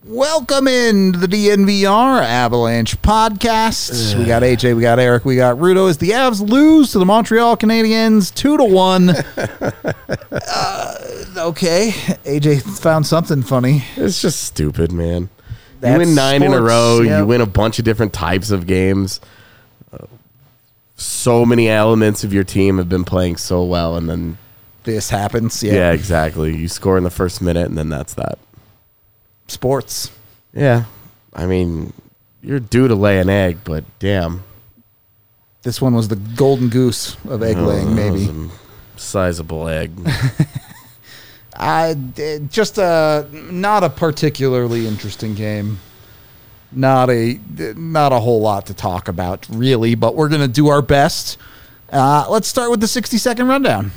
Welcome in to the DNVR Avalanche podcast. We got AJ, we got Eric, we got Rudo as the Avs lose to the Montreal Canadiens 2-1. Okay, AJ found something funny. It's just stupid, man. That's you win 9 in a sports, row. yep. You win a bunch of different types of games. So many elements of your team have been playing so well, and then This happens, yeah, exactly. You score in the first minute, and then that's that. Sports. Yeah, I mean, you're due to lay an egg, but damn, This one was the golden goose of egg laying, that maybe. was a sizable egg. Just not a particularly interesting game. Not a whole lot to talk about, really, but we're going to do our best. Let's start with the 60-second rundown.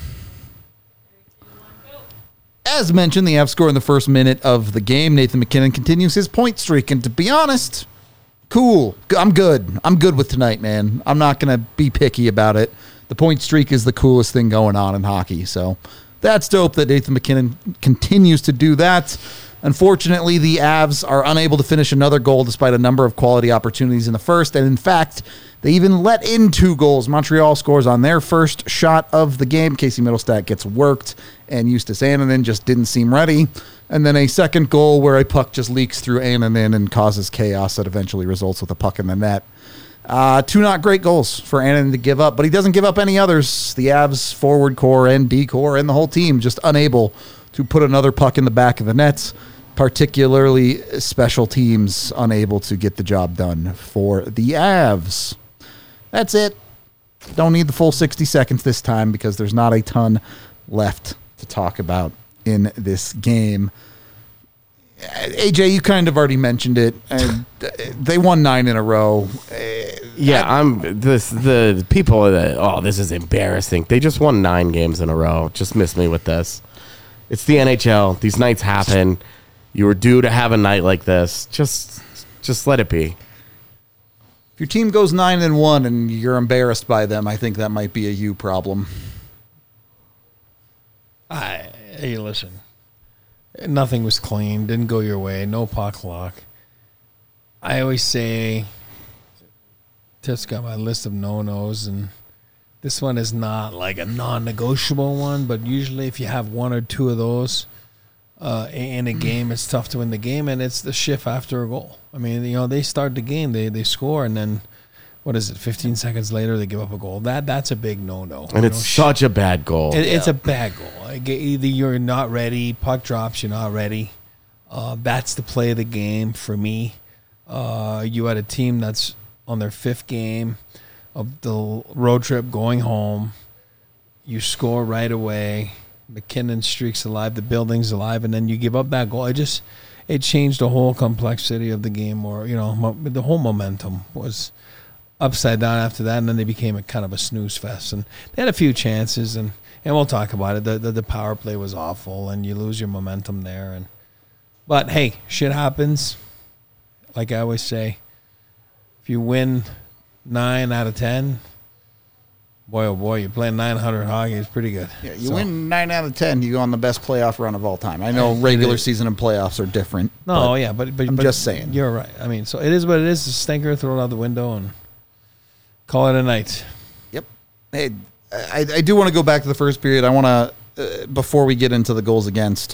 As mentioned, the Avs score in the first minute of the game. Nathan MacKinnon continues his point streak, and to be honest, cool. I'm good. I'm good with tonight, man. I'm not going to be picky about it. The point streak is the coolest thing going on in hockey, so that's dope that Nathan MacKinnon continues to do that. Unfortunately, the Avs are unable to finish another goal despite a number of quality opportunities in the first, and in fact, they even let in 2 goals. Montreal scores on their first shot of the game. Casey Middlestat gets worked, and Justus Annunen just didn't seem ready. And then a second goal where a puck just leaks through Annunen and causes chaos that eventually results with a puck in the net. 2 not great goals for Annunen to give up, but he doesn't give up any others. The Avs forward core and D core and the whole team just unable to put another puck in the back of the nets, particularly special teams unable to get the job done for the Avs. That's it. Don't need the full 60 seconds this time because there's not a ton left to talk about in this game. AJ, you kind of already mentioned it. They won 9 in a row. Yeah, the people that, this is embarrassing. They just won 9 games in a row. Just miss me with this. It's the NHL. These nights happen. You were due to have a night like this. Just let it be. If your team goes 9-1 and you're embarrassed by them, I think that might be a you problem. Hey, listen. Nothing was clean. Didn't go your way. No puck luck. I always say, Tiff's got my list of no-nos, and this one is not like a non-negotiable one, but usually if you have 1 or 2 of those in a game, it's tough to win the game, and it's the shift after a goal. I mean, they start the game, they score, and then, 15 seconds later, they give up a goal. That's a big no-no. And it's such a bad goal. It's a bad goal. Either you're not ready, puck drops, you're not ready. That's the play of the game for me. You had a team that's on their 5th game of the road trip going home. You score right away. MacKinnon streaks alive. The building's alive. And then you give up that goal. It changed the whole complexity of the game, or, the whole momentum was upside down after that. And then they became a kind of a snooze fest. And they had a few chances, and we'll talk about it. The power play was awful, and you lose your momentum there. But, hey, shit happens. Like I always say, if you win 9 out of 10, boy, oh boy, you're playing 900 hockey. It's pretty good. Yeah, you win 9 out of 10, you go on the best playoff run of all time. I know regular season and playoffs are different. No, yeah, but I'm just saying. You're right. I mean, so it is what it is. It's a stinker, throw it out the window, and call it a night. Yep. Hey, I do want to go back to the first period. I want to, before we get into the goals against,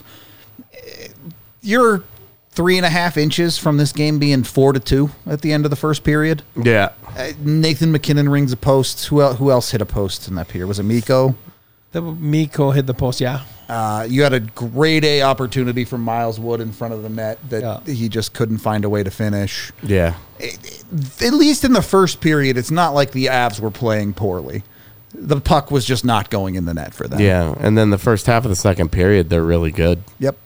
you're 3.5 inches from this game being 4-2 at the end of the first period. Yeah. Nathan MacKinnon rings a post. Who else hit a post in that period? Was it Mikko? Mikko hit the post, yeah. You had a grade A opportunity from Miles Wood in front of the net that he just couldn't find a way to finish. Yeah. At least in the first period, it's not like the Avs were playing poorly. The puck was just not going in the net for them. Yeah, and then the first half of the second period, they're really good. Yep.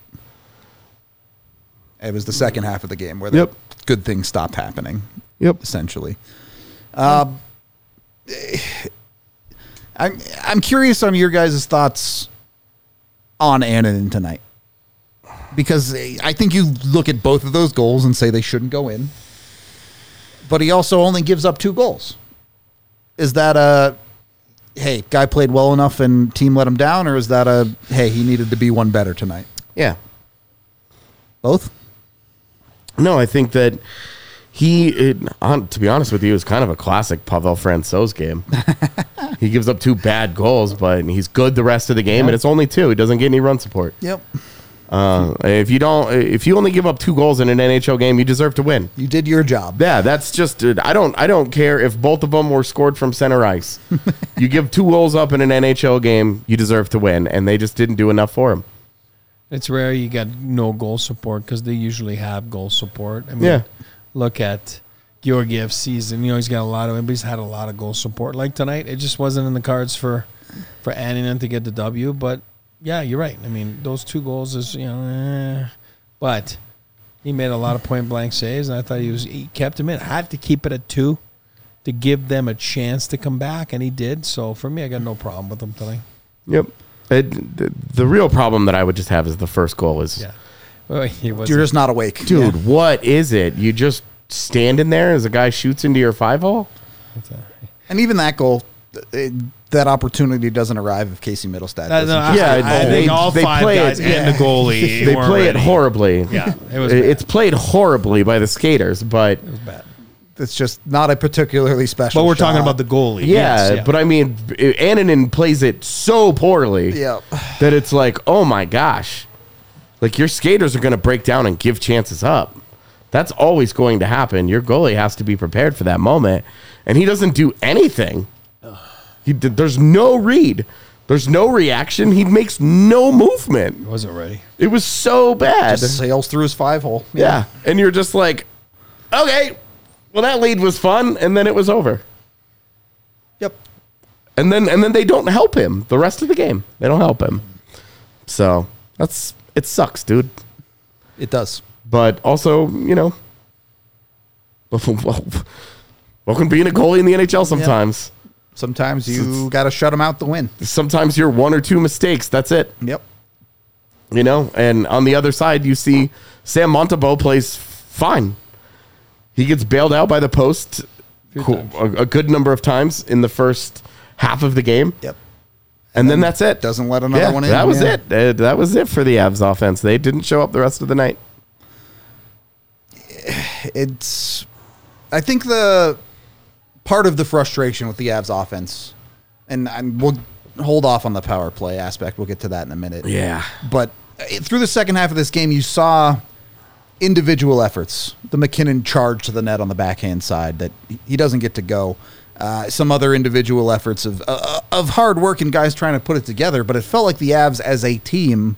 It was the second half of the game where the good things stopped happening. Yep. Essentially. I'm curious on your guys' thoughts on Annunen tonight. Because I think you look at both of those goals and say they shouldn't go in. But he also only gives up 2 goals. Is that a, hey, guy played well enough and team let him down? Or is that a, hey, he needed to be one better tonight? Yeah. Both? No, I think that to be honest with you, is kind of a classic Pavel Francouz game. He gives up 2 bad goals, but he's good the rest of the game, and it's only 2. He doesn't get any run support. Yep. If you only give up 2 goals in an NHL game, you deserve to win. You did your job. Yeah, that's just. I don't care if both of them were scored from center ice. You give 2 goals up in an NHL game, you deserve to win, and they just didn't do enough for him. It's rare you get no goal support because they usually have goal support. I mean, Yeah. Look at Georgiev's season. He's got but he's had a lot of goal support. Like tonight, it just wasn't in the cards for Annunen to get the W. But yeah, you're right. I mean, those 2 goals is but he made a lot of point blank saves, and I thought he kept him in. I had to keep it at 2 to give them a chance to come back, and he did. So for me, I got no problem with him tonight. Yep. The real problem that I would just have is the first goal is. Yeah. Well, You're just not awake. Dude, Yeah. what is it? You just stand in there as a guy shoots into your 5-hole? And even that goal, that opportunity doesn't arrive if Casey Middlestat doesn't. I think all they 5 play guys it- and the goalie. They weren't play it ready. horribly. Yeah, it was bad. It's played horribly by the skaters, but It was bad. It's just not a particularly special But we're talking shot. about the goalie. yeah, Yes, but I mean, Annunen plays it so poorly Yeah. that it's like, oh my gosh. Like, your skaters are going to break down and give chances up. That's always going to happen. Your goalie has to be prepared for that moment, and he doesn't do anything. There's no read. There's no reaction. He makes no movement. wasn't ready. It was so bad. Just sails through his 5-hole. Yeah. And you're just like, okay, well, that lead was fun, and then it was over. Yep. And then they don't help him the rest of the game. They don't help him. So it sucks, dude. It does. But also, welcome being a goalie in the NHL sometimes. Sometimes you got to shut him out to win. Sometimes you're 1 or 2 mistakes. That's it. Yep. And on the other side, you see Sam Montembeault plays fine. He gets bailed out by the post a good number of times in the first half of the game. Yep. And then that's it. Doesn't let another one in. That was Yeah. it. That was it for the Avs offense. They didn't show up the rest of the night. I think the part of the frustration with the Avs offense, and we'll hold off on the power play aspect. We'll get to that in a minute. Yeah. But through the second half of this game, you saw individual efforts. The McKinnon charge to the net on the backhand side that he doesn't get to go. Some other individual efforts of hard work and guys trying to put it together. But it felt like the Avs as a team,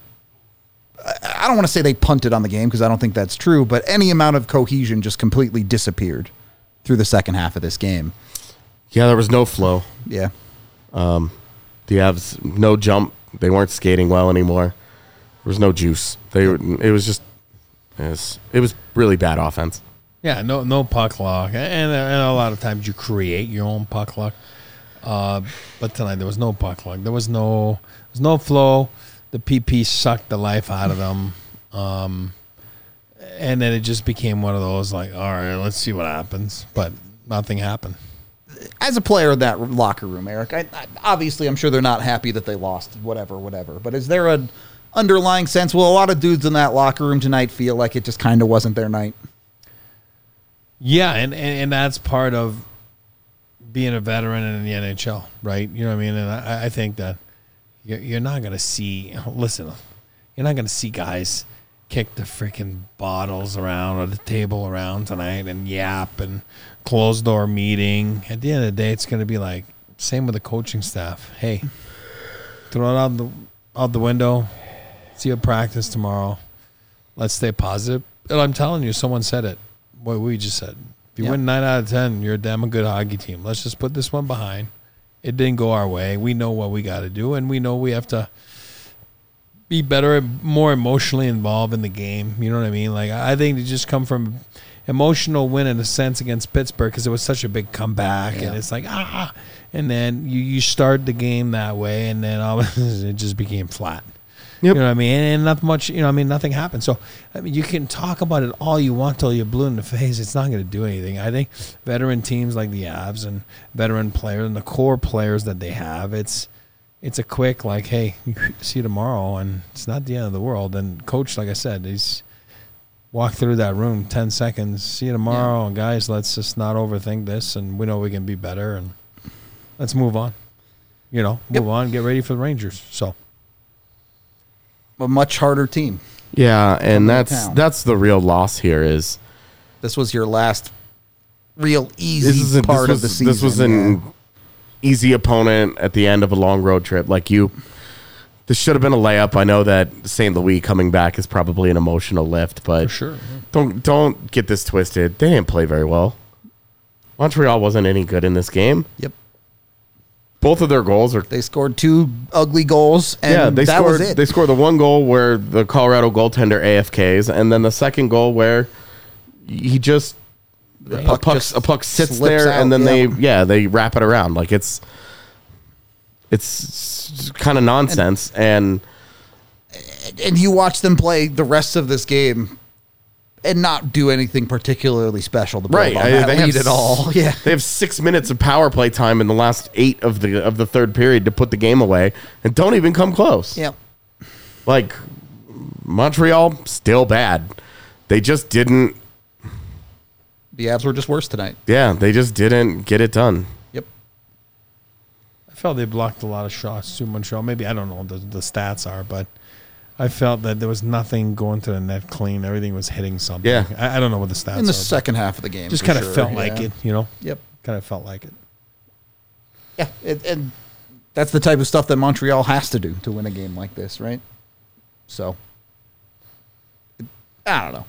I don't want to say they punted on the game because I don't think that's true, but any amount of cohesion just completely disappeared through the second half of this game. Yeah, there was no flow. Yeah. The Avs, no jump. They weren't skating well anymore. There was no juice. It was really bad offense. Yeah, no puck luck, and a lot of times you create your own puck luck. But tonight there was no puck luck. There was no flow. The PP sucked the life out of them, and then it just became one of those like, all right, let's see what happens. But nothing happened. As a player in that locker room, Eric, obviously I'm sure they're not happy that they lost, whatever. But is there an underlying sense? Well, a lot of dudes in that locker room tonight feel like it just kind of wasn't their night. Yeah, and that's part of being a veteran in the NHL, right? You know what I mean? And I think that you're not going to see, listen, you're not going to see guys kick the freaking bottles around or the table around tonight and yap and closed door meeting. At the end of the day, it's going to be like, same with the coaching staff. Hey, throw it out the window. See you at practice tomorrow. Let's stay positive. And I'm telling you, someone said it. What we just said. If you win 9 out of 10, you're a damn good hockey team. Let's just put this one behind. It didn't go our way. We know what we got to do, and we know we have to be better and more emotionally involved in the game. You know what I mean? Like, I think to just come from emotional win in a sense against Pittsburgh because it was such a big comeback, and it's like, and then you start the game that way, and then all of a sudden it just became flat. Yep. You know what I mean? And not much, nothing happened. So, I mean, you can talk about it all you want till you're blue in the face. It's not going to do anything. I think veteran teams like the Avs and veteran players and the core players that they have, it's a quick, like, hey, see you tomorrow, and it's not the end of the world. And coach, like I said, walk through that room, 10 seconds. See you tomorrow, and guys. Let's just not overthink this, and we know we can be better, and let's move on. Move on. Get ready for the Rangers. So A much harder team. Yeah, and Coming to town. that's the real loss here is This was your last real easy part of the season. This was an easy opponent at the end of a long road trip. This should have been a layup. I know that St. Louis coming back is probably an emotional lift, but for sure. don't get this twisted. They didn't play very well. Montreal wasn't any good in this game. Yep. Both of their goals are. They scored 2 ugly goals, and They that scored. was it. They scored the one goal where the Colorado goaltender AFKs, and then the second goal where he just a puck sits slips there, out, and then yeah. they wrap it around like it's kind of nonsense. And you watch them play the rest of this game and not do anything particularly special to build Right, on that they have lead at all. Yeah. they have 6 minutes of power play time in the last 8 of the third period to put the game away, and don't even come close. Yep. Like Montreal, still bad. They just didn't. The Avs were just worse tonight. Yeah, they just didn't get it done. Yep. I felt they blocked a lot of shots to Montreal. Maybe, I don't know what the stats are, but I felt that there was nothing going to the net clean. Everything was hitting something. Yeah. I don't know what the stats In the are. second half of the game. Just for kind of sure, felt like yeah. it, Yep. Kind of felt like it. Yeah. And that's the type of stuff that Montreal has to do to win a game like this, right? So, I don't know.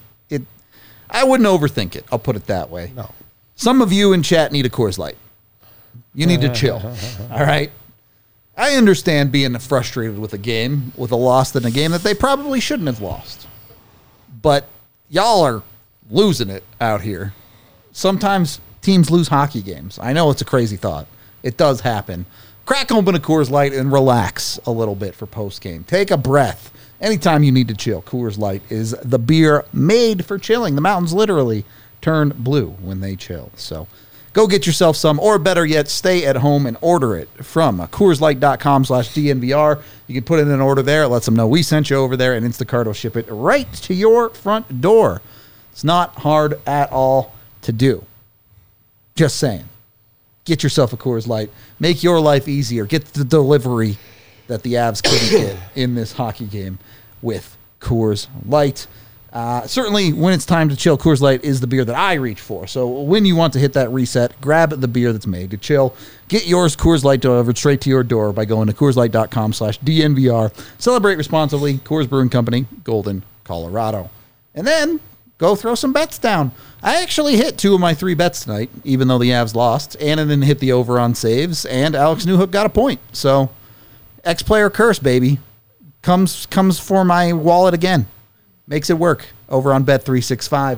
I wouldn't overthink it. I'll put it that way. No. Some of you in chat need a Coors Light. You need to chill. All right? I understand being frustrated with a loss in a game that they probably shouldn't have lost. But y'all are losing it out here. Sometimes teams lose hockey games. I know it's a crazy thought. It does happen. Crack open a Coors Light and relax a little bit for post game. Take a breath. Anytime you need to chill, Coors Light is the beer made for chilling. The mountains literally turn blue when they chill. So go get yourself some, or better yet, stay at home and order it from CoorsLight.com/DNVR. You can put in an order there. It lets them know we sent you over there, and Instacart will ship it right to your front door. It's not hard at all to do. Just saying. Get yourself a Coors Light. Make your life easier. Get the delivery that the Avs couldn't get in this hockey game with Coors Light. Certainly, when it's time to chill, Coors Light is the beer that I reach for. So when you want to hit that reset, grab the beer that's made to chill. Get yours Coors Light delivered straight to your door by going to CoorsLight.com/DNVR. Celebrate responsibly. Coors Brewing Company, Golden, Colorado. And then go throw some bets down. I actually hit 2 of my 3 bets tonight, even though the Avs lost. Annunen hit the over on saves, and Alex Newhook got a point. So X-Player curse, baby. Comes for my wallet again. Makes it work over on Bet365.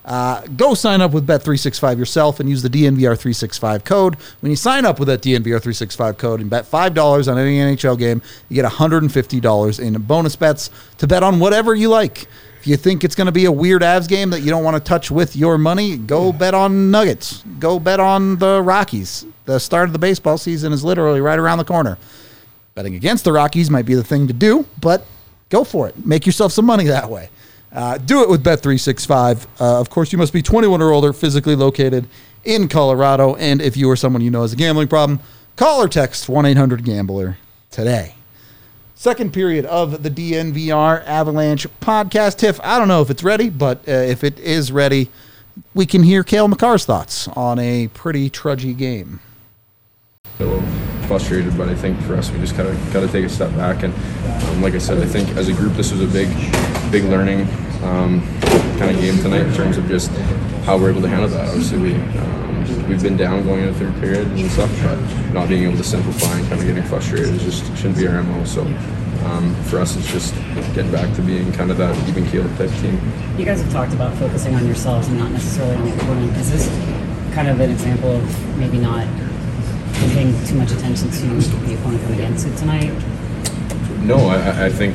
Go sign up with Bet365 yourself and use the DNVR365 code. When you sign up with that DNVR365 code and bet $5 on any NHL game, you get $150 in bonus bets to bet on whatever you like. If you think it's going to be a weird Avs game that you don't want to touch with your money, go bet on Nuggets. Go bet on the Rockies. The start of the baseball season is literally right around the corner. Betting against the Rockies might be the thing to do, but go for it. Make yourself some money that way. Do it with Bet365. Of course, you must be 21 or older, physically located in Colorado. And if you or someone you know has a gambling problem, call or text 1-800-GAMBLER today. Second period of the DNVR Avalanche podcast. Tiff, I don't know if it's ready, but if it is ready, we can hear Cale Makar's thoughts on a pretty trudgy game. A little frustrated, but I think for us, we just got to take a step back. And like I said, I think as a group, this was a big learning kind of game tonight in terms of just how we're able to handle that. Obviously, we've been down going into the third period and stuff, but not being able to simplify and kind of getting frustrated is just shouldn't be our MO. So for us, it's just getting back to being kind of that even keel type team. You guys have talked about focusing on yourselves and not necessarily on the opponent. Is this kind of an example of maybe not paying too much attention to the opponent coming against it tonight? No, I think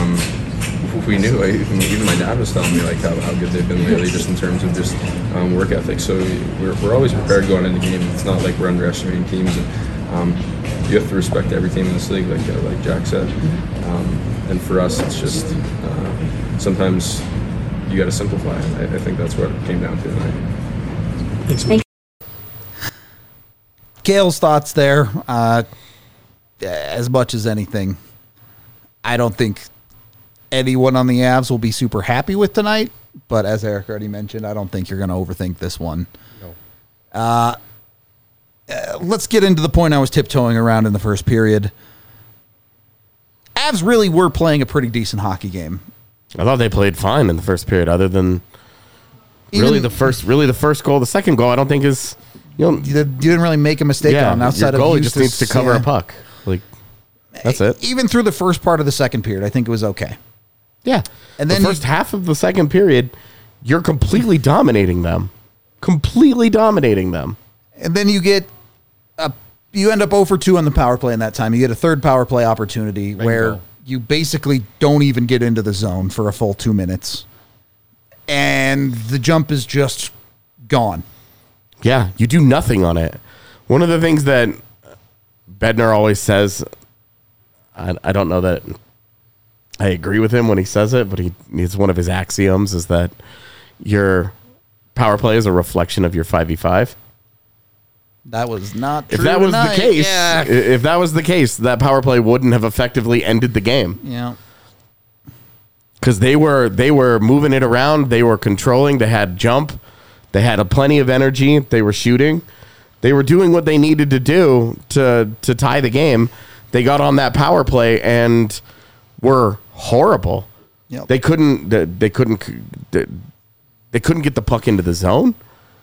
we knew. Even my dad was telling me like how good they've been lately, just in terms of just work ethic. So we're always prepared going into the game. It's not like we're underestimating teams. And you have to respect every team in this league, like Jack said. And for us, it's just sometimes you got to simplify. I think that's what it came down to tonight. Gail's thoughts there. As much as anything, I don't think anyone on the Avs will be super happy with tonight. But as Eric already mentioned, I don't think you're going to overthink this one. No. Let's get into the point I was tiptoeing around in the first period. Avs really were playing a pretty decent hockey game. I thought they played fine in the first period, other than the first goal. The second goal, I don't think is you didn't really make a mistake on outside your goalie of just needs to cover a puck. Like that's it. Even through the first part of the second period, I think it was okay. Yeah, and then the first half of the second period, you're completely dominating them, and then you end up 0 for 2 on the power play in that time. You get a third power play opportunity where you basically don't even get into the zone for a full 2 minutes. And the jump is just gone. Yeah, you do nothing on it. One of the things that Bednar always says, I don't know that I agree with him when he says it, but it's one of his axioms, is that your power play is a reflection of your 5v5. That was not true. If that was tonight. the case, if that was the case, that power play wouldn't have effectively ended the game. Yeah. Because they were moving it around, they were controlling, they had jump, they had plenty of energy, they were shooting, they were doing what they needed to do to tie the game. They got on that power play and were horrible. Yep. They couldn't get the puck into the zone.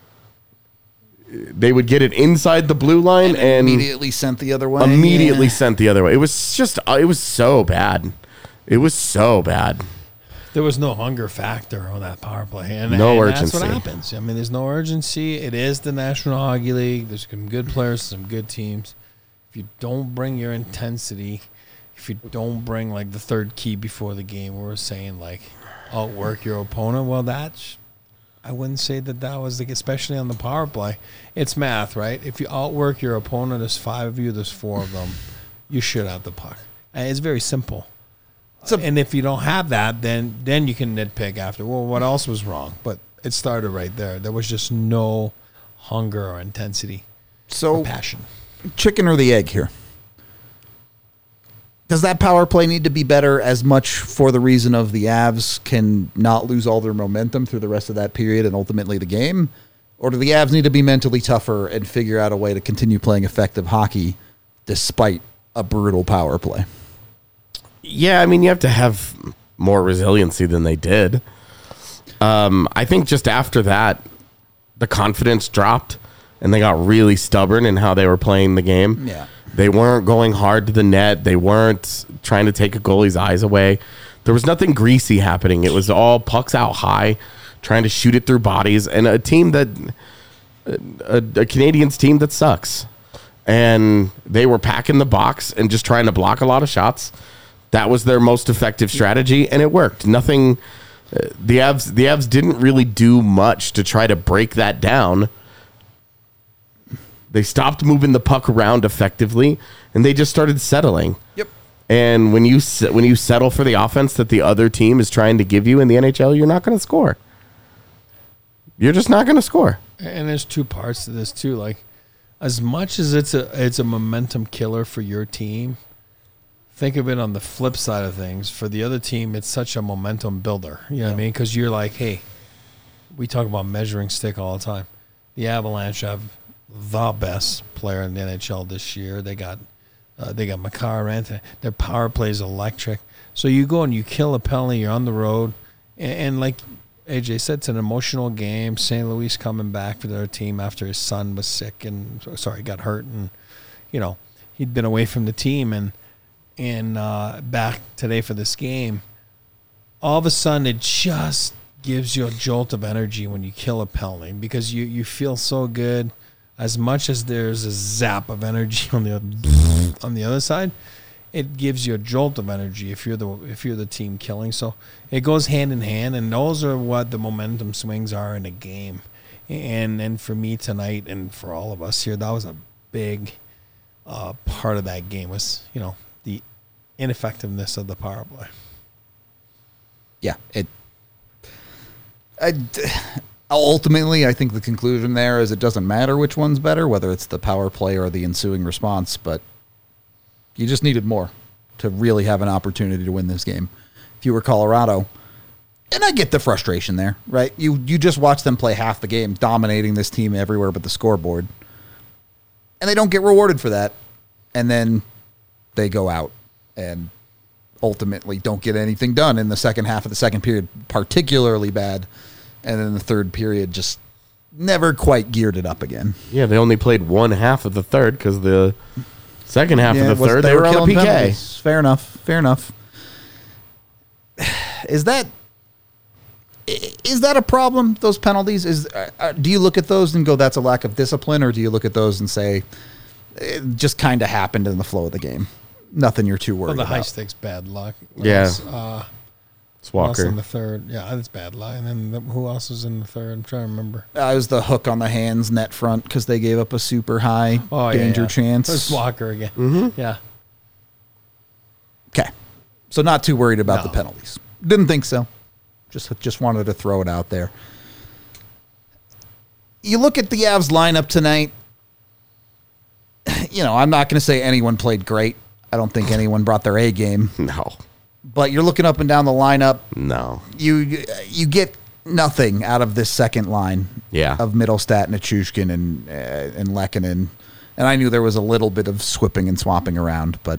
They would get it inside the blue line and immediately sent the other way. Sent the other way. It was so bad. It was so bad. There was no hunger factor on that power play. And urgency. That's what happens. I mean, there's no urgency. It is the National Hockey League. There's some good players, some good teams. If you don't bring your intensity, if you don't bring like the third key before the game, we're saying like outwork your opponent. Well, I wouldn't say that was especially on the power play. It's math, right? If you outwork your opponent, there's 5 of you, there's 4 of them. You should have the puck. And it's very simple. And if you don't have that, then you can nitpick after. Well, what else was wrong? But it started right there. There was just no hunger or intensity or passion. Chicken or the egg here? Does that power play need to be better as much for the reason of the Avs can not lose all their momentum through the rest of that period and ultimately the game? Or do the Avs need to be mentally tougher and figure out a way to continue playing effective hockey despite a brutal power play? Yeah, I mean, you have to have more resiliency than they did. I think just after that, the confidence dropped and they got really stubborn in how they were playing the game. Yeah. They weren't going hard to the net. They weren't trying to take a goalie's eyes away. There was nothing greasy happening. It was all pucks out high, trying to shoot it through bodies, and a Canadiens team that sucks. And they were packing the box and just trying to block a lot of shots. That was their most effective strategy, and it worked. Nothing. The Avs didn't really do much to try to break that down. They stopped moving the puck around effectively, and they just started settling. Yep. And when you settle for the offense that the other team is trying to give you in the NHL, you're not going to score. You're just not going to score. And there's 2 parts to this too. Like, as much as it's a momentum killer for your team, think of it on the flip side of things. For the other team, it's such a momentum builder. You know what I mean? Because you're like, hey, we talk about measuring stick all the time. The Avalanche have the best player in the NHL this year. They got Makar Anthony. Their power play is electric. So you go and you kill a penalty. You're on the road, and like AJ said, it's an emotional game. St. Louis coming back for their team after his son was sick and got hurt, and he'd been away from the team and back today for this game. All of a sudden, it just gives you a jolt of energy when you kill a penalty because you feel so good. As much as there's a zap of energy on the other side, it gives you a jolt of energy if you're the team killing. So it goes hand in hand, and those are what the momentum swings are in a game. And for me tonight, and for all of us here, that was a big part of that game was the ineffectiveness of the power play. Yeah, Ultimately, I think the conclusion there is it doesn't matter which one's better, whether it's the power play or the ensuing response, but you just needed more to really have an opportunity to win this game. If you were Colorado, and I get the frustration there, right? You just watch them play half the game, dominating this team everywhere but the scoreboard, and they don't get rewarded for that, and then they go out and ultimately don't get anything done in the second half of the second period, particularly bad. And then the third period just never quite geared it up again. Yeah, they only played one half of the third because the second half of the third, they were on killing the PK. penalties. Fair enough. Is that a problem, those penalties? Do you look at those and go, that's a lack of discipline, or do you look at those and say, it just kind of happened in the flow of the game? Nothing you're too worried Well, the about. high stakes bad luck. Yeah. It's It's Walker. in the third. Yeah, that's bad luck. And then who else was in the third? I'm trying to remember. It was the hook on the hands net front because they gave up a super high danger chance. It's Walker again. Mm-hmm. Yeah. Okay. So not too worried about No. the penalties. Didn't think so. Just wanted to throw it out there. You look at the Avs lineup tonight. I'm not going to say anyone played great. I don't think anyone brought their A game. No. But you're looking up and down the lineup. No. You get nothing out of this second line. Yeah. Of Middlestat, Nichushkin, and Lehkonen. And I knew there was a little bit of swapping and swapping around, but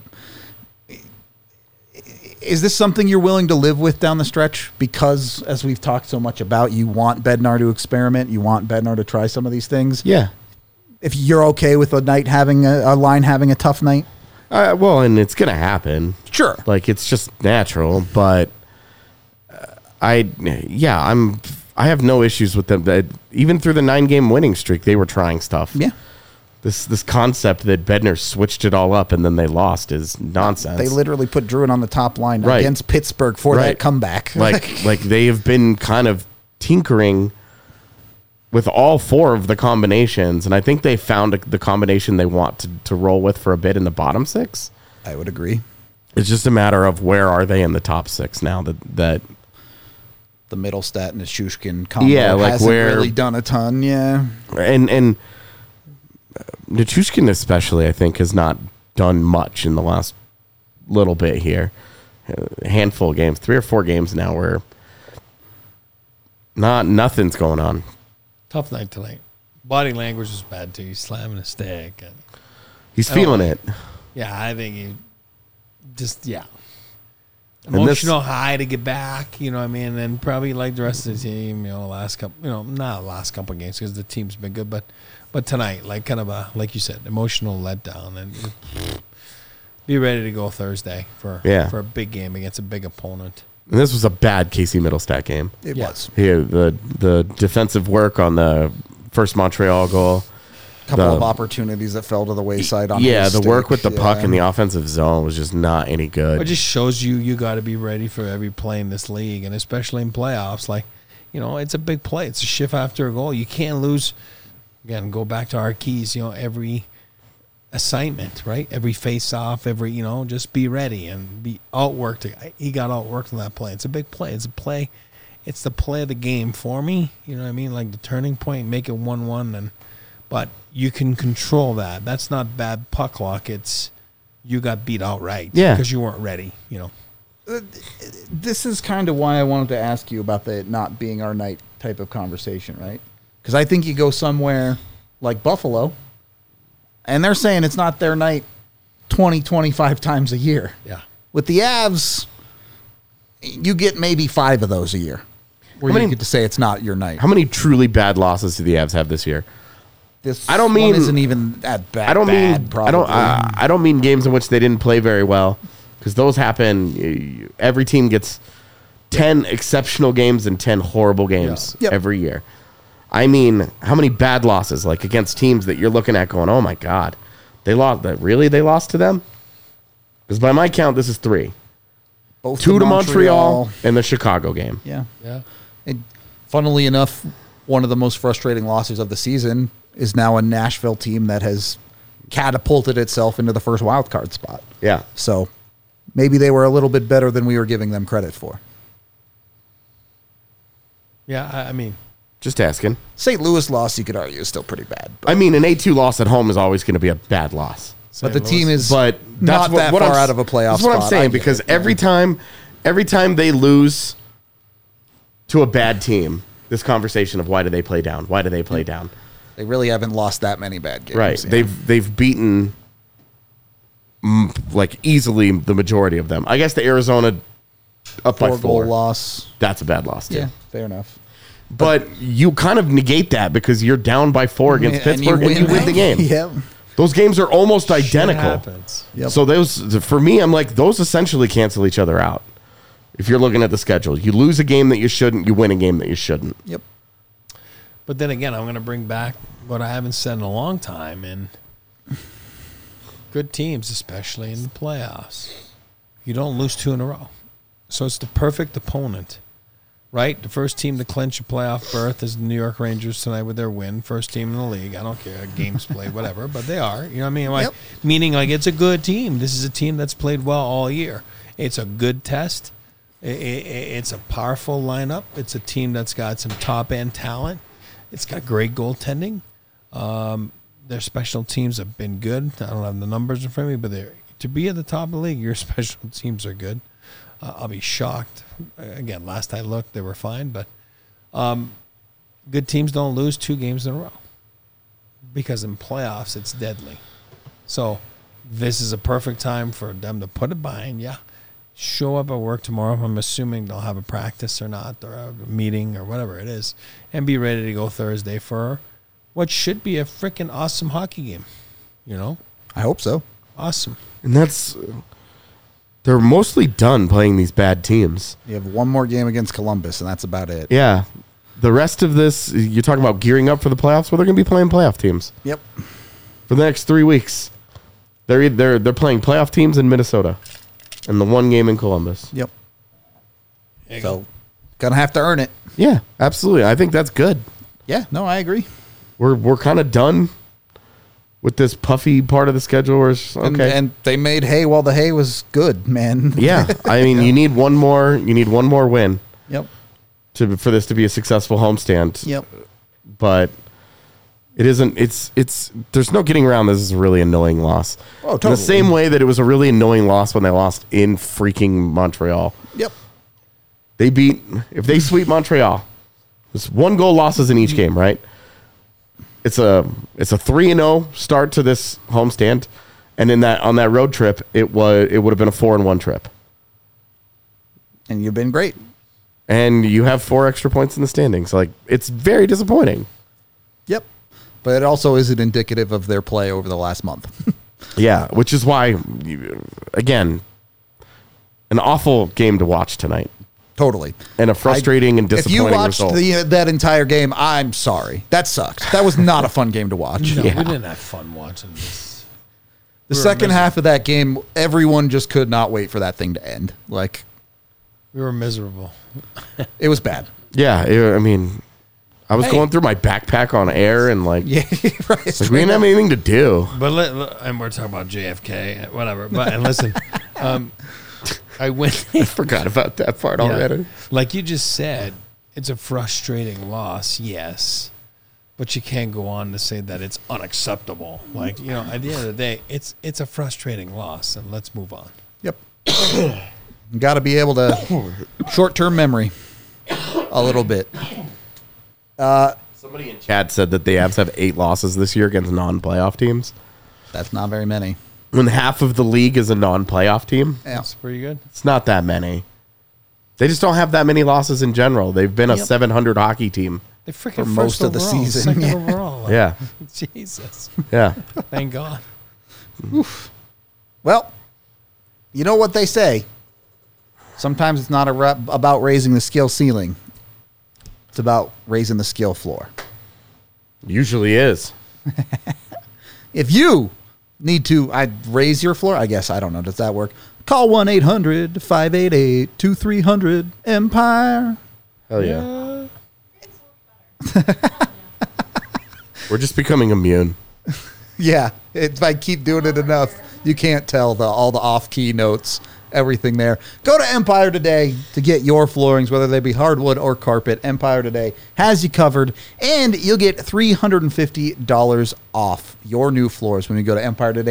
is this something you're willing to live with down the stretch? Because, as we've talked so much about, you want Bednar to experiment. You want Bednar to try some of these things. Yeah. If you're okay with a night having a line having a tough night, Well, and it's going to happen. sure. Like, it's just natural, but I have no issues with them. Even through the 9-game winning streak, they were trying stuff. Yeah. This concept that Bednar switched it all up and then they lost is nonsense. They literally put Druin on the top line Right. against Pittsburgh for that Right. comeback. like they have been kind of tinkering with all four of the combinations, and I think they found the combination they want to roll with for a bit in the bottom six. I would agree. It's just a matter of where are they in the top six now that The Middlestat and the Shushkin combo hasn't where really done a ton. Yeah. and Nichushkin especially, I think, has not done much in the last little bit here. A handful of games, 3 or 4 games now where nothing's going on. Tough night tonight. Body language was bad too. He's slamming a stick. And He's feeling it. yeah, I think he just, yeah. this- Emotional high to get back, you know what I mean? And probably like the rest of the team, last couple, not last couple of games because the team's been good, but tonight, like kind of a, like you said, emotional letdown, and be ready to go Thursday for a big game against a big opponent. And this was a bad Casey Middlestat game. It was. Here, the defensive work on the first Montreal goal. Couple of opportunities that fell to the wayside on Yeah, his the work stick. with the puck Yeah. in the offensive zone was just not any good. It just shows you got to be ready for every play in this league, and especially in playoffs. Like, it's a big play. It's a shift after a goal. You can't lose. Again, go back to our keys. Every assignment, right? Every face-off, every just be ready and be outworked. He got outworked on that play. It's a big play. It's a play. It's the play of the game for me. You know what I mean? Like the turning point, make it 1-1, but you can control that. That's not bad puck luck. It's you got beat outright. Yeah. Because you weren't ready. This is kind of why I wanted to ask you about the not being our night type of conversation, right? Because I think you go somewhere like Buffalo, and they're saying it's not their night 20, 25 times a year. Yeah. With the Avs, you get maybe 5 of those a year where How you many- get to say it's not your night. How many truly bad losses do the Avs have this year? This I don't one mean- isn't even that bad. I don't mean probably. I don't mean games in which they didn't play very well, because those happen. Every team gets 10 exceptional games and 10 horrible games Yep. every year. I mean, how many bad losses, like against teams that you're looking at going, oh my God, they lost. Really, they lost to them? Because by my count, this is 3. Both 2 to Montreal and the Chicago game. Yeah. Yeah. And funnily enough, one of the most frustrating losses of the season is now a Nashville team that has catapulted itself into the first wild card spot. Yeah. So maybe they were a little bit better than we were giving them credit for. Yeah, I mean, Just asking. St. Louis loss, you could argue, is still pretty bad. But, I mean, an 8-2 loss at home is always going to be a bad loss. but the team is But not that's that what far I'm, out of a playoff That's what I'm spot. I saying, get because it. every time they lose to a bad team, this conversation of why do they play down? Why do they play down? They really haven't lost that many bad games. Right. yeah. They've beaten like easily the majority of them. I guess the Arizona up by 4-goal 4. loss. That's a bad loss too. Yeah, fair enough. But you kind of negate that because you're down by 4 against Pittsburgh and you win the game. Yep. Those games are almost identical. happens. Yep. So those, for me, I'm like, those essentially cancel each other out. If you're looking at the schedule, you lose a game that you shouldn't, you win a game that you shouldn't. Yep. But then again, I'm going to bring back what I haven't said in a long time. And good teams, especially in the playoffs, you don't lose 2 in a row. So it's the perfect opponent, right? The first team to clinch a playoff berth is the New York Rangers tonight with their win. First team in the league. I don't care. Games played, whatever. But they are. You know what I mean? Like, Yep. meaning like it's a good team. This is a team that's played well all year. It's a good test. It's a powerful lineup. It's a team that's got some top-end talent. It's got great goaltending. Their special teams have been good. I don't have the numbers in front of me, but to be at the top of the league, your special teams are good. I'll be shocked. Again, last I looked, they were fine, but good teams don't lose 2 games in a row because in playoffs, it's deadly. So this is a perfect time for them to put it behind you. Show up at work tomorrow. I'm assuming they'll have a practice or not, or a meeting or whatever it is, and be ready to go Thursday for what should be a freaking awesome hockey game. You know, I hope so. awesome. And they're mostly done playing these bad teams. You have one more game against Columbus, and that's about it. Yeah. The rest of this, you're talking about gearing up for the playoffs. Well, they're going to be playing playoff teams Yep. for the next 3 weeks. They're playing playoff teams in Minnesota and the one game in Columbus. Yep. So, gonna have to earn it. Yeah, absolutely. I think that's good. Yeah. No, I agree. We're kind of done with this puffy part of the schedule. Where it's, okay. And they made hay while the hay was good, man. Yeah, I mean, you need one more. You need one more win Yep. for this to be a successful homestand. Yep. But it isn't. It's. There's no getting around. This is a really annoying loss. Oh, In totally. the same way that it was a really annoying loss when they lost in freaking Montreal. Yep. If they sweep Montreal, it's 1-goal losses in each game, right? It's a 3-0 start to this homestand, and on that road trip, it would have been a 4-1 trip. And you've been great. And you have 4 extra points in the standings. Like, it's very disappointing. Yep. But it also isn't indicative of their play over the last month. Yeah, which is why, again, an awful game to watch tonight. Totally. And a frustrating and If you disappointing watched result. that entire game, I'm sorry. That sucked. That was not a fun game to watch. No, Yeah. we didn't have fun watching this. The We were second miserable. half of that game, everyone just could not wait for that thing to end. Like, We were miserable. it was bad. Yeah, I mean, I was Hey. going through my backpack on air and like, Yeah, right. like we didn't have anything to do. But and we're talking about JFK, whatever. But and listen, I went. I forgot about that part Yeah. already. Like you just said, it's a frustrating loss, yes, but you can't go on to say that it's unacceptable. Like, you know, at the end of the day, it's a frustrating loss, and let's move on. Yep. Got to be able to short-term memory a little bit. Somebody in chat said that the Avs have 8 losses this year against non-playoff teams. That's not very many. When half of the league is a non-playoff team, Yeah. That's pretty good. it's not that many. They just don't have that many losses in general. They've been a Yep. 700 hockey team. They freaking For most first of the overall, season, second yeah. overall. Like, Yeah, Jesus, yeah. thank God. Well, you know what they say. Sometimes it's not about raising the skill ceiling. It's about raising the skill floor. Usually is. If you need to raise your floor, I guess, I don't know, does that work? Call 1-800-588-2300-EMPIRE. Hell yeah. We're just becoming immune. Yeah, if I keep doing it enough, you can't tell all the off-key notes everything there. Go to Empire Today to get your floorings, whether they be hardwood or carpet. Empire Today has you covered, and you'll get $350 off your new floors when you go to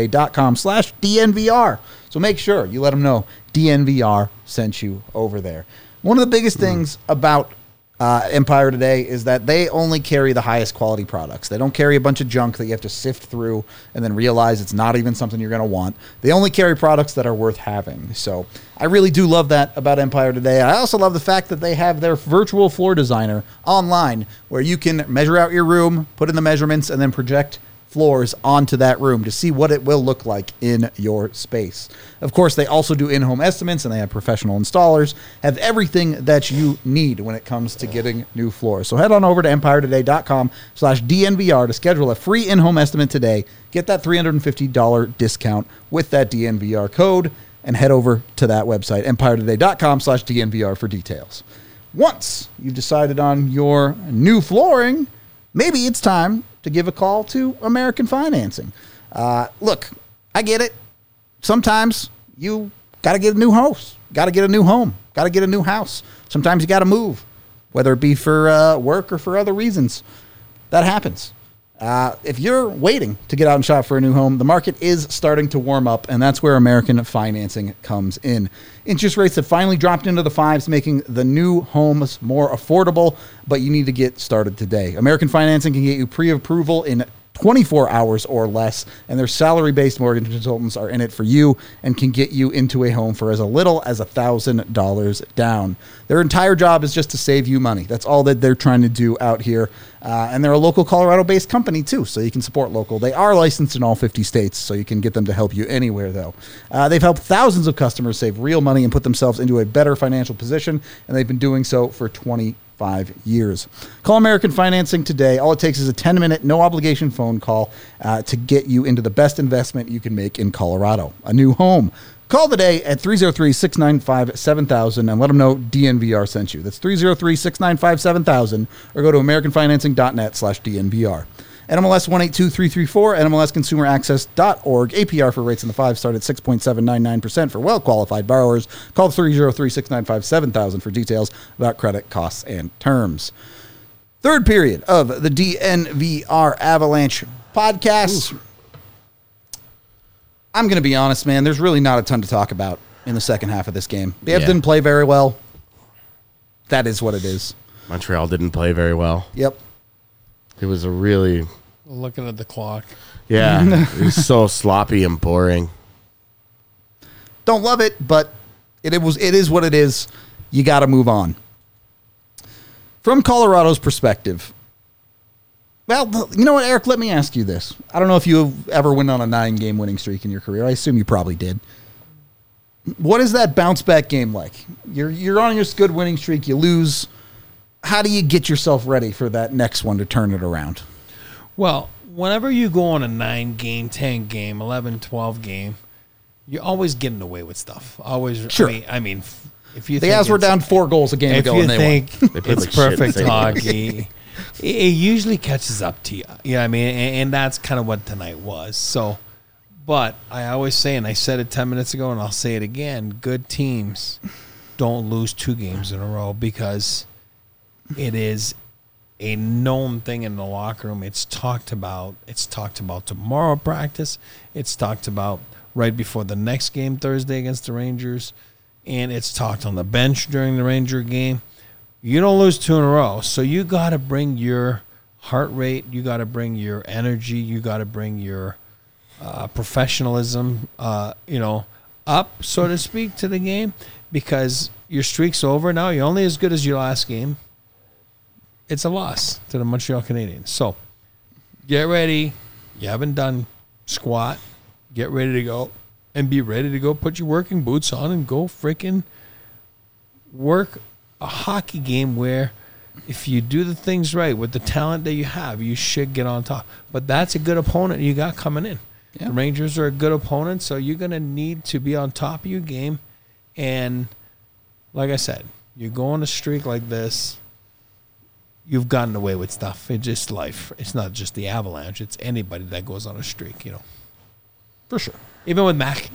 EmpireToday.com/DNVR. So make sure you let them know DNVR sent you over there. One of the biggest things about Empire Today is that they only carry the highest quality products. They don't carry a bunch of junk that you have to sift through and then realize it's not even something you're going to want. They only carry products that are worth having. So I really do love that about Empire Today. I also love the fact that they have their virtual floor designer online where you can measure out your room, put in the measurements, and then project floors onto that room to see what it will look like in your space. Of course, they also do in-home estimates, and they have professional installers, have everything that you need when it comes to getting new floors. So head on over to EmpireToday.com/DNVR to schedule a free in-home estimate today. Get that $350 discount with that DNVR code, and head over to that website, EmpireToday.com/DNVR for details. Once you've decided on your new flooring, maybe it's time to give a call to American Financing. Look, I get it. Sometimes you got to get a new house, got to get a new home, got to get a new house. Sometimes you got to move, whether it be for work or for other reasons. That happens. If you're waiting to get out and shop for a new home, the market is starting to warm up, and that's where American Financing comes in. Interest rates have finally dropped into the fives, making the new homes more affordable, but you need to get started today. American Financing can get you pre-approval in 24 hours or less, and their salary-based mortgage consultants are in it for you and can get you into a home for as little as $1,000 down. Their entire job is just to save you money. That's all that they're trying to do out here. And they're a local Colorado-based company, too, so you can support local. They are licensed in all 50 states, so you can get them to help you anywhere, though. They've helped thousands of customers save real money and put themselves into a better financial position, and they've been doing so for 25 years. Call American Financing today. All it takes is a 10-minute, no-obligation phone call to get you into the best investment you can make in Colorado, a new home. Call today at 303-695-7000 and let them know DNVR sent you. That's 303-695-7000 or go to americanfinancing.net/DNVR. NMLS 182334, NMLSconsumeraccess.org. APR for rates in the 5 start at 6.799% for well-qualified borrowers. Call 303-695-7000 for details about credit costs and terms. Third period of the DNVR Avalanche podcast. Ooh. I'm going to be honest, man. There's really not a ton to talk about in the second half of this game. The Avs didn't play very well. That is what it is. Montreal didn't play very well. Yep. It was a really... Looking at the clock. Yeah. It was so sloppy and boring. Don't love it, but it is what it is. You got to move on. From Colorado's perspective... Well, you know what, Eric? Let me ask you this. I don't know if you ever went on a 9-game winning streak in your career. I assume you probably did. What is that bounce-back game like? You're on your good winning streak. You lose. How do you get yourself ready for that next one to turn it around? Well, whenever you go on a 9-game, 10-game, 11, 12 game, you're always getting away with stuff. Always. Sure. I mean if you the Avs were down 4 goals a game ago, and they won. If you think it's perfect hockey... It usually catches up to you. You know what I mean? And that's kind of what tonight was. So, but I always say, and I said it 10 minutes ago, and I'll say it again, good teams don't lose 2 games in a row because it is a known thing in the locker room. It's talked about. It's talked about tomorrow practice. It's talked about right before the next game Thursday against the Rangers. And it's talked on the bench during the Ranger game. You don't lose 2 in a row, so you got to bring your heart rate, you got to bring your energy, you got to bring your professionalism, up, so to speak, to the game, because your streak's over now. You're only as good as your last game. It's a loss to the Montreal Canadiens. So get ready. You haven't done squat. Get ready to go and be ready to go. Put your working boots on and go freaking work a hockey game where if you do the things right with the talent that you have, you should get on top. But that's a good opponent you got coming in. Yeah. The Rangers are a good opponent, so you're going to need to be on top of your game. And like I said, you go on a streak like this, you've gotten away with stuff. It's just life. It's not just the Avalanche. It's anybody that goes on a streak, For sure. Even with Mac,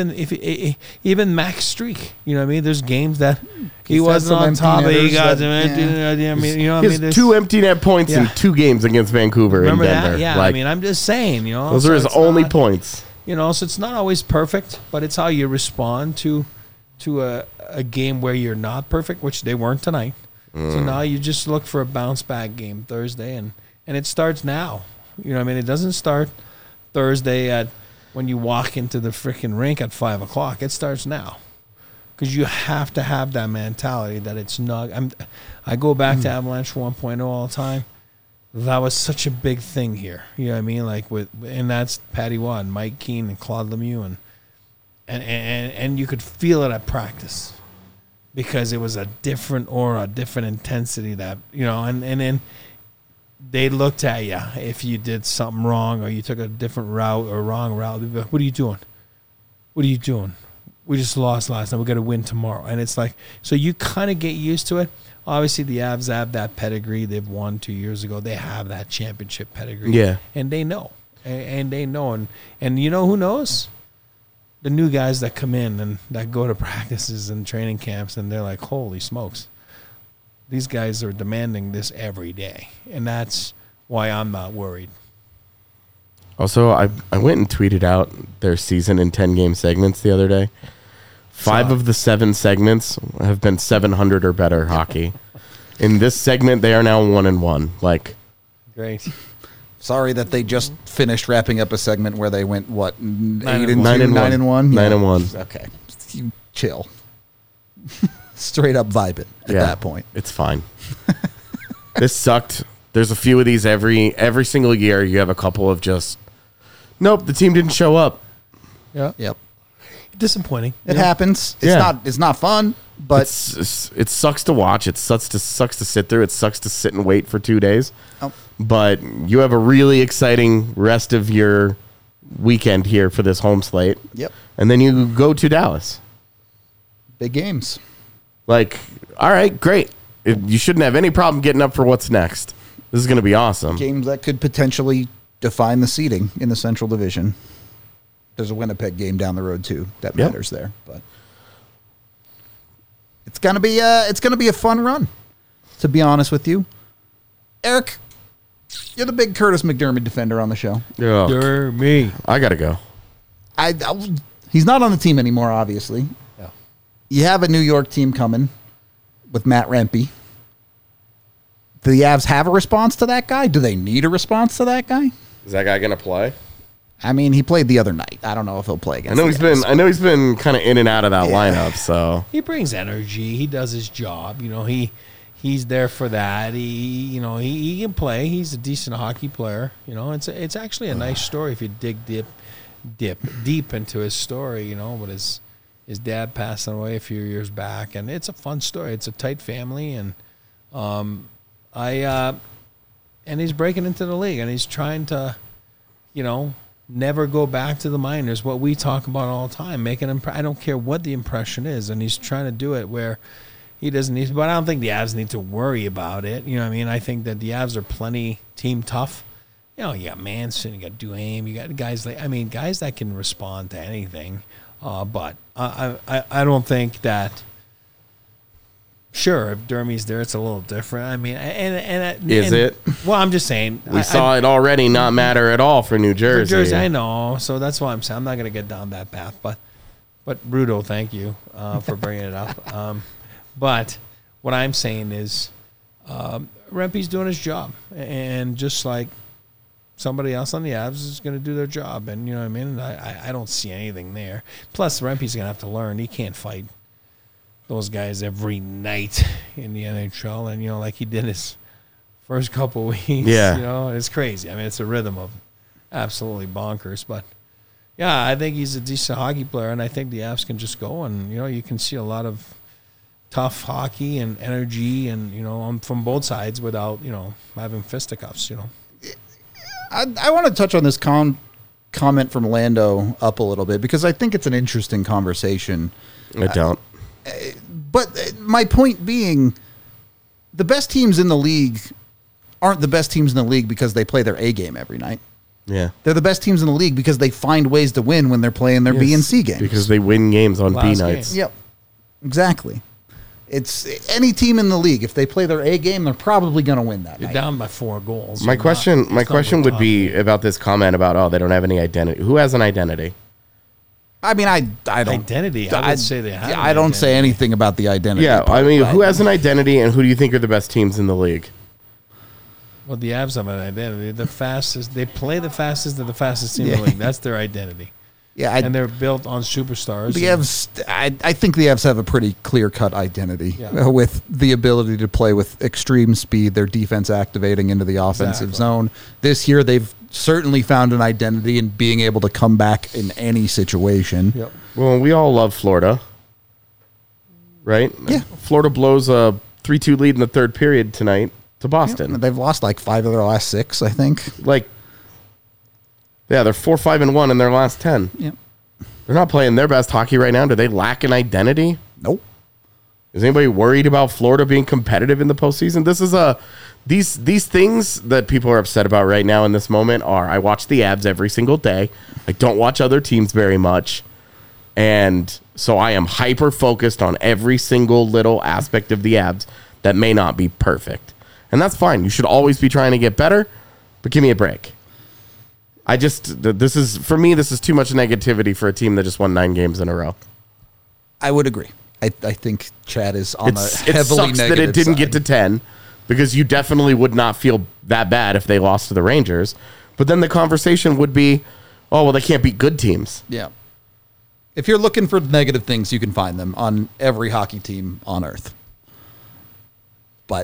even Mac's streak, you know what I mean? There's games that he He's had wasn't some on empty top, but he netters got that- some empty. yeah. I mean, you know what He I mean? has 2 empty net points in Yeah. 2 games against Vancouver Remember in Denver. that? Yeah, Like, I mean, I'm just saying, you know. those so are his it's only not- points. You know, so it's not always perfect, but it's how you respond to a game where you're not perfect, which they weren't tonight. So now you just look for a bounce back game Thursday, and it starts now. You know what I mean? It doesn't start Thursday at when you walk into the freaking rink at 5 o'clock. It starts now. Because you have to have that mentality that it's not. I go back to Avalanche 1.0 all the time. That was such a big thing here. You know what I mean? Like and that's Patty Watt, and Mike Keane, and Claude Lemieux, and you could feel it at practice because it was a different aura, a different intensity that, you know, and then they looked at you if you did something wrong or you took a different route or wrong route. They'd be like, what are you doing? What are you doing? We just lost last night. We got to win tomorrow. And it's like, so you kind of get used to it. Obviously, the Avs have that pedigree. They've won 2 years ago. They have that championship pedigree. Yeah. And they know. And they know. And you know who knows? The new guys that come in and that go to practices and training camps, and they're like, holy smokes. These guys are demanding this every day. And that's why I'm not worried. Also, I went and tweeted out their season in 10-game segments the other day. 5 of the 7 segments have been 700 or better hockey. In this segment, they are now 1-1. Like, Great. Sorry that they just finished wrapping up a segment where they went, what, 8 and 2, 9 and 9 and 1? 9 and 1. Okay. You chill. Straight up vibing at Yeah, that point. it's fine. This sucked. There's a few of these every single year. You have a couple of just, nope, the team didn't show up. Yeah. Yep. Disappointing. It happens. Yeah. It's not fun, but It sucks to watch. It sucks to sit through. It sucks to sit and wait for 2 days. Oh. But you have a really exciting rest of your weekend here for this home slate. Yep. And then you go to Dallas. big games. Like, all right, great. You shouldn't have any problem getting up for what's next. This is going to be awesome. Games that could potentially define the seeding in the Central Division. There's a Winnipeg game down the road too that Yep. matters there, but it's gonna be a fun run. To be honest with you, Eric, you're the big Curtis McDermott defender on the show. Ugh. You're me. I got to go. He's not on the team anymore, obviously. Yeah. You have a New York team coming with Matt Rempe. Do the Avs have a response to that guy? Do they need a response to that guy? Is that guy going to play? I mean, he played the other night. I don't know if he'll play I against. know the Avs. I know he's been kind of in and out of that Yeah. lineup, so He brings energy. He does his job. You know, he's there for that. He can play. He's a decent hockey player. You know, it's actually a nice story if you dig deep into his story. You know, with his dad passing away a few years back, and it's a fun story. It's a tight family, and and he's breaking into the league, and he's trying to, you know, never go back to the minors. What we talk about all the time, I don't care what the impression is, and he's trying to do it where he doesn't need. But I don't think the Avs need to worry about it. You know what I mean? I think that the Avs are plenty team tough. You know, you got Manson, you got Duhaime, you got guys guys that can respond to anything. But I don't think that. Sure, if Dermy's there, it's a little different. I mean, Is it? Well, I'm just saying. we saw it already not matter at all for New Jersey. For Jersey, I know. So that's why I'm saying I'm not going to get down that path. But Rudo, thank you for bringing it up. But what I'm saying is Rempe's doing his job. And just like somebody else on the Avs is going to do their job. And you know what I mean? And I don't see anything there. Plus, Rempe's going to have to learn. He can't fight those guys every night in the NHL. And, you know, like he did his first couple weeks. Yeah. You know, it's crazy. I mean, it's a rhythm of absolutely bonkers. But, yeah, I think he's a decent hockey player, and I think the Avs can just go. And, you know, you can see a lot of tough hockey and energy and, you know, from both sides without, you know, having fisticuffs, you know. I want to touch on this comment from Lando up a little bit because I think it's an interesting conversation. I don't. But my point being, the best teams in the league aren't the best teams in the league because they play their A game every night. Yeah. They're the best teams in the league because they find ways to win when they're playing their B and C games. Because they win games on B Last nights. game. Yep, exactly. It's any team in the league. If they play their A game, they're probably going to win that You're night. down by 4 goals. My You're question not- it's not would tough. be about this comment about, they don't have any identity. Who has an identity? I mean, I don't. Identity. I would say they have. I don't say anything about the identity. Yeah, part, I mean, but- who has an identity, and who do you think are the best teams in the league? Well, the Avs have an identity. The fastest. They play the fastest of the fastest team in Yeah. the league. That's their identity. Yeah, And they're built on superstars. the and- Avs. I think the Avs have a pretty clear-cut identity Yeah. with the ability to play with extreme speed. Their defense activating into the offensive Exactly. zone. This year, they've certainly found an identity in being able to come back in any situation. Yep. Well, we all love Florida, right? Yeah. Florida blows a 3-2 lead in the third period tonight to Boston. They've lost like 5 of their last 6, I think. Like, yeah, they're 4-5-1 in their last 10. Yep. They're not playing their best hockey right now. Do they lack an identity? Nope. Is anybody worried about Florida being competitive in the postseason? This is these things that people are upset about right now in this moment are, I watch the Avs every single day. I don't watch other teams very much. And so I am hyper focused on every single little aspect of the Avs that may not be perfect. And that's fine. You should always be trying to get better, but give me a break. This is too much negativity for a team that just won 9 games in a row. I would agree. I think Chad is on It the sucks heavily that negative it didn't side. get to 10 because you definitely would not feel that bad if they lost to the Rangers. But then the conversation would be, oh, well, they can't beat good teams. Yeah. If you're looking for negative things, you can find them on every hockey team on earth. But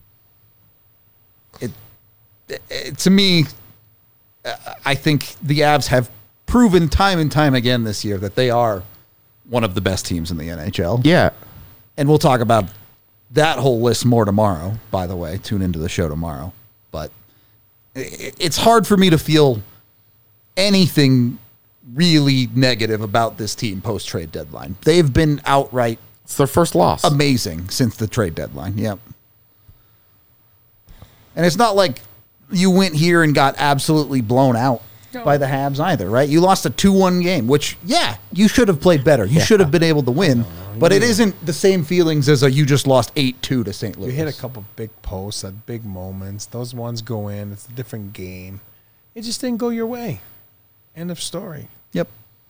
it to me, I think the Avs have proven time and time again this year that they are one of the best teams in the NHL. Yeah. And we'll talk about that whole list more tomorrow, by the way. Tune into the show tomorrow. But it's hard for me to feel anything really negative about this team post-trade deadline. They've been outright It's their first loss. amazing since the trade deadline. Yep. And it's not like you went here and got absolutely blown out by the Habs either, right? You lost a 2-1 game, which, yeah, you should have played better. You should have been able to win. But it isn't the same feelings as you just lost 8-2 to St. Louis. You hit a couple big posts at big moments. Those ones go in. It's a different game. It just didn't go your way. End of story. Yep.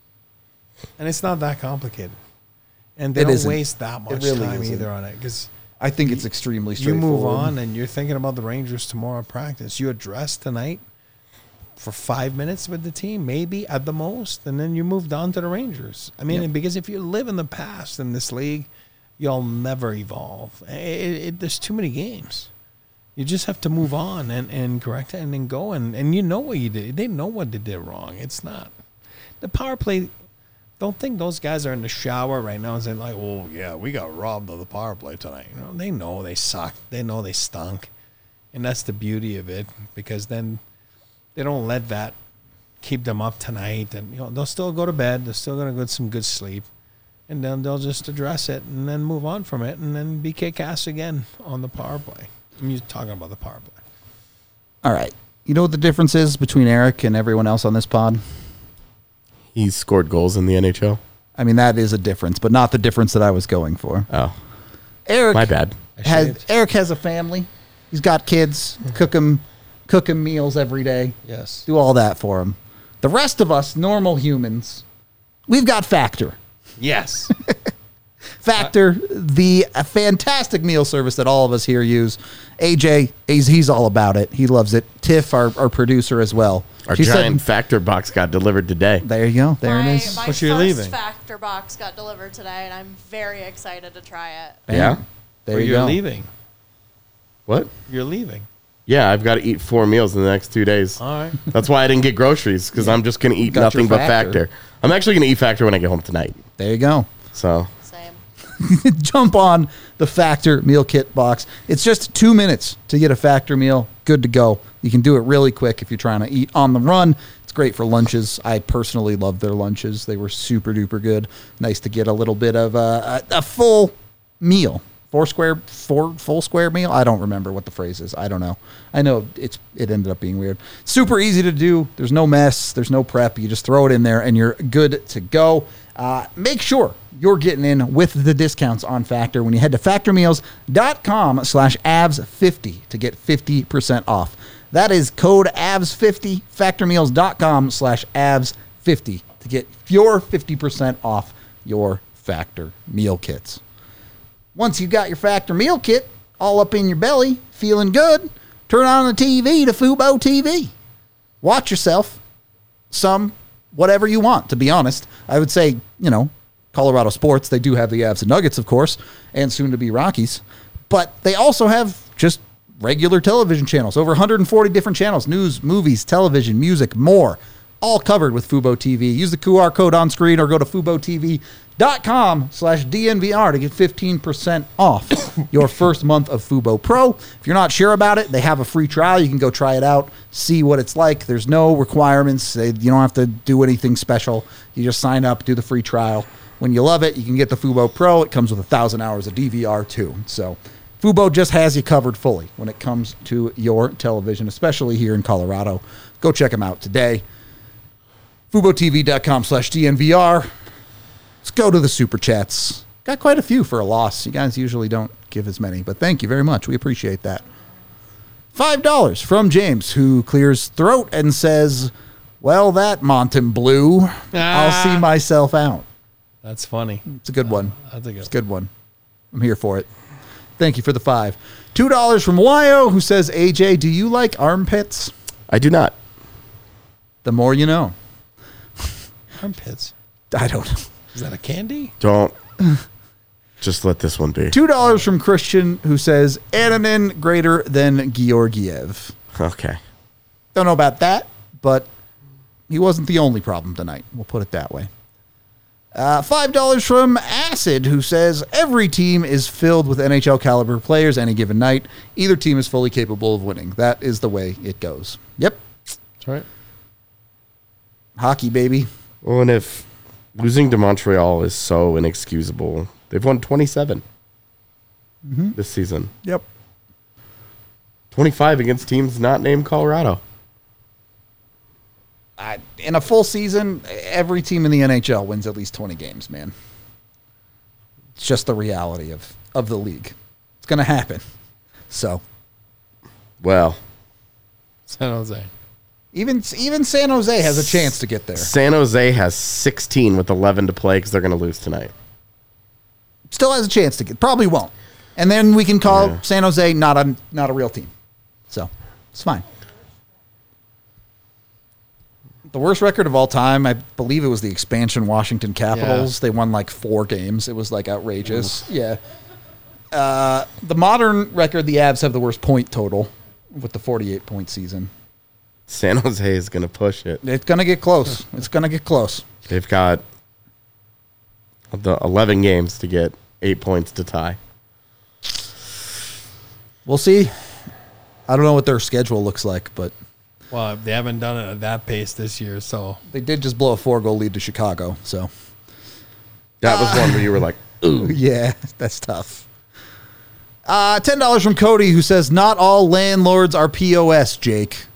And it's not that complicated. And they It don't isn't. waste that much really time isn't. either on it because I think it's extremely you straightforward. move on and you're thinking about the Rangers tomorrow in practice. You address tonight for 5 minutes with the team, maybe at the most, and then you moved on to the Rangers. I mean, Yep. because if you live in the past in this league, you'll never evolve. There's too many games. You just have to move on and correct it and then go. And you know what you did. They know what they did wrong. It's not. The power play, don't think those guys are in the shower right now and saying, like, oh, yeah, we got robbed of the power play tonight. You know, they know they sucked. They know they stunk. And that's the beauty of it because then they don't let that keep them up tonight. And, they'll still go to bed. They're still going to get some good sleep. And then they'll just address it and then move on from it and then be kick-ass again on the power play. I'm just talking about the power play. All right. You know what the difference is between Eric and everyone else on this pod? He's scored goals in the NHL. I mean, that is a difference, but not the difference that I was going for. Oh, Eric my bad. Eric has a family. He's got kids. Cook him meals every day. Yes. Do all that for him. The rest of us, normal humans, we've got Factor. Yes. Factor, the fantastic meal service that all of us here use. AJ, he's all about it. He loves it. Tiff, our producer as well. Our She giant said, Factor box got delivered today. there you go. There it is. My But you're first leaving. Factor box got delivered today, and I'm very excited to try it. Yeah? There Or you you're go. leaving. What? You're leaving. Yeah, I've got to eat 4 meals in the next 2 days. All right. That's why I didn't get groceries, because I'm just going to eat Got nothing your but Factor. Factor. I'm actually going to eat Factor when I get home tonight. There you go. So, Same. Jump on the Factor meal kit box. It's just 2 minutes to get a Factor meal. Good to go. You can do it really quick if you're trying to eat on the run. It's great for lunches. I personally love their lunches. They were super duper good. Nice to get a little bit of a full meal full square meal. I don't remember what the phrase is. I don't know. I know it ended up being weird. Super easy to do. There's no mess. There's no prep. You just throw it in there and you're good to go. Make sure you're getting in with the discounts on Factor when you head to factormeals.com/avs50 to get 50% off. That is code AVS50, factormeals.com/AVS50 to get your 50% off your Factor meal kits. Once you've got your Factor meal kit all up in your belly, feeling good, turn on the TV to Fubo TV. Watch yourself some whatever you want, to be honest. I would say, Colorado sports, they do have the Avs and Nuggets, of course, and soon to be Rockies. But they also have just regular television channels, over 140 different channels, news, movies, television, music, more, all covered with Fubo TV. Use the QR code on screen or go to FuboTV.com/DNVR to get 15% off your first month of Fubo Pro. If you're not sure about it, they have a free trial. You can go try it out, see what it's like. There's no requirements. You don't have to do anything special. You just sign up, do the free trial. When you love it, you can get the Fubo Pro. It comes with 1,000 hours of DVR too. So Fubo just has you covered fully when it comes to your television, especially here in Colorado. Go check them out today. FuboTV.com/DNVR. Let's go to the Super Chats. Got quite a few for a loss. You guys usually don't give as many, but thank you very much. We appreciate that. $5 from James, who clears throat and says, well, that Monten Blue, I'll see myself out. That's funny. It's a good one. That's It's a good one. I'm here for it. Thank you for the $5. $2 from Wyo, who says, AJ, do you like armpits? I do not. The more you know. Armpits. I don't know. Is that a candy? Don't. Just let this one be. $2 from Christian, who says, Antonin greater than Georgiev. Okay. Don't know about that, but he wasn't the only problem tonight. We'll put it that way. $5 from Acid, who says, every team is filled with NHL caliber players any given night. Either team is fully capable of winning. That is the way it goes. Yep. That's right. Hockey, baby. Well, and if losing to Montreal is so inexcusable, they've won 27 this season. Yep. 25 against teams not named Colorado. In a full season, every team in the NHL wins at least 20 games, man. It's just the reality of the league. It's going to happen. So. Well. San Jose. Even San Jose has a chance to get there. San Jose has 16 with 11 to play because they're going to lose tonight. Still has a chance to get. Probably won't. And then we can call San Jose not a real team. So, it's fine. The worst record of all time, I believe it was the expansion Washington Capitals. Yeah. They won like 4 games. It was like outrageous. Yeah. The modern record, the Avs have the worst point total with the 48-point season. San Jose is going to push it. It's going to get close. It's going to get close. They've got the 11 games to get 8 points to tie. We'll see. I don't know what their schedule looks like, but... Well, they haven't done it at that pace this year, so... They did just blow a 4-goal lead to Chicago, so... That was one where you were like, ooh. Yeah, that's tough. $10 from Cody, who says, not all landlords are POS, Jake.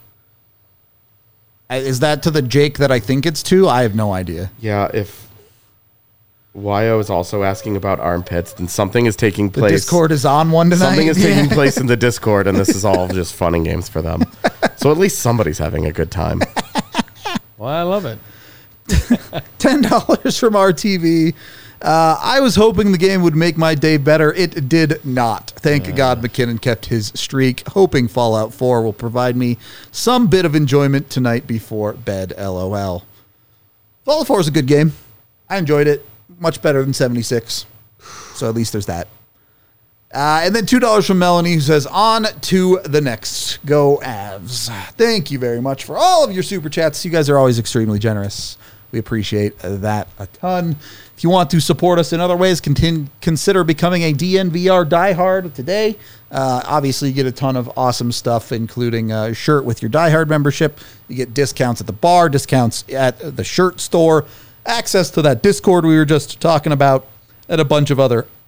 Is that to the Jake that I think it's to? I have no idea. Yeah, if Wyo is also asking about armpits, then something is taking place. The Discord is on one tonight? Something is taking place in the Discord, and this is all just fun and games for them. So at least somebody's having a good time. Well, I love it. $10 from RTV. I was hoping the game would make my day better. It did not. Thank God McKinnon kept his streak. Hoping Fallout 4 will provide me some bit of enjoyment tonight before bed. LOL. Fallout 4 is a good game. I enjoyed it. Much better than 76. So at least there's that. And then $2 from Melanie, who says, on to the next. Go Avs. Thank you very much for all of your super chats. You guys are always extremely generous. We appreciate that a ton. If you want to support us in other ways, consider becoming a DNVR diehard today. Obviously, you get a ton of awesome stuff, including a shirt with your diehard membership. You get discounts at the bar, discounts at the shirt store, access to that Discord we were just talking about, and a bunch of other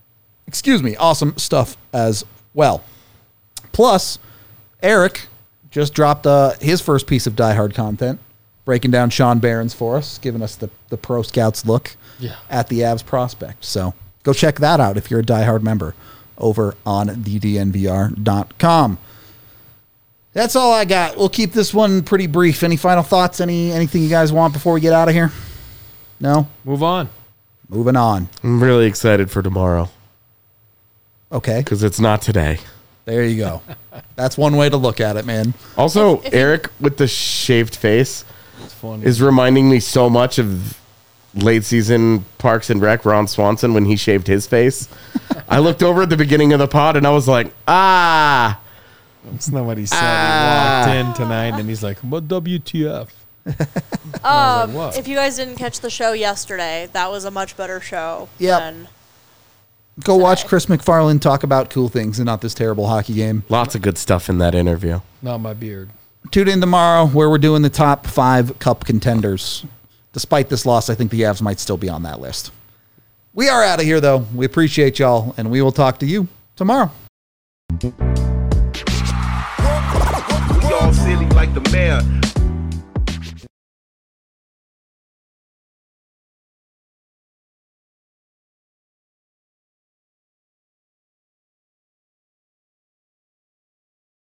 Awesome stuff as well. Plus, Eric just dropped his first piece of Die Hard content, breaking down Sean Barron's for us, giving us the Pro Scouts look at the Avs prospect. So go check that out if you're a Die Hard member over on thednvr.com. That's all I got. We'll keep this one pretty brief. Any final thoughts? Anything you guys want before we get out of here? No? Move on. Moving on. I'm really excited for tomorrow Okay. because it's not today. There you go. That's one way to look at it, man. Also, Eric with the shaved face It's funny. is reminding me so much of late season Parks and Rec, Ron Swanson, when he shaved his face. I looked over at the beginning of the pod and I was like, That's not what he said. He walked in tonight and he's like, "What WTF?" What? If you guys didn't catch the show yesterday, that was a much better show. Yep. than Go watch today. Chris McFarland talk about cool things and not this terrible hockey game. lots of good stuff in that interview. Not my beard. Tune in tomorrow where we're doing the top 5 cup contenders. Despite this loss, I think the Avs might still be on that list. We are out of here, though. We appreciate y'all, and we will talk to you tomorrow. We all silly like the mayor.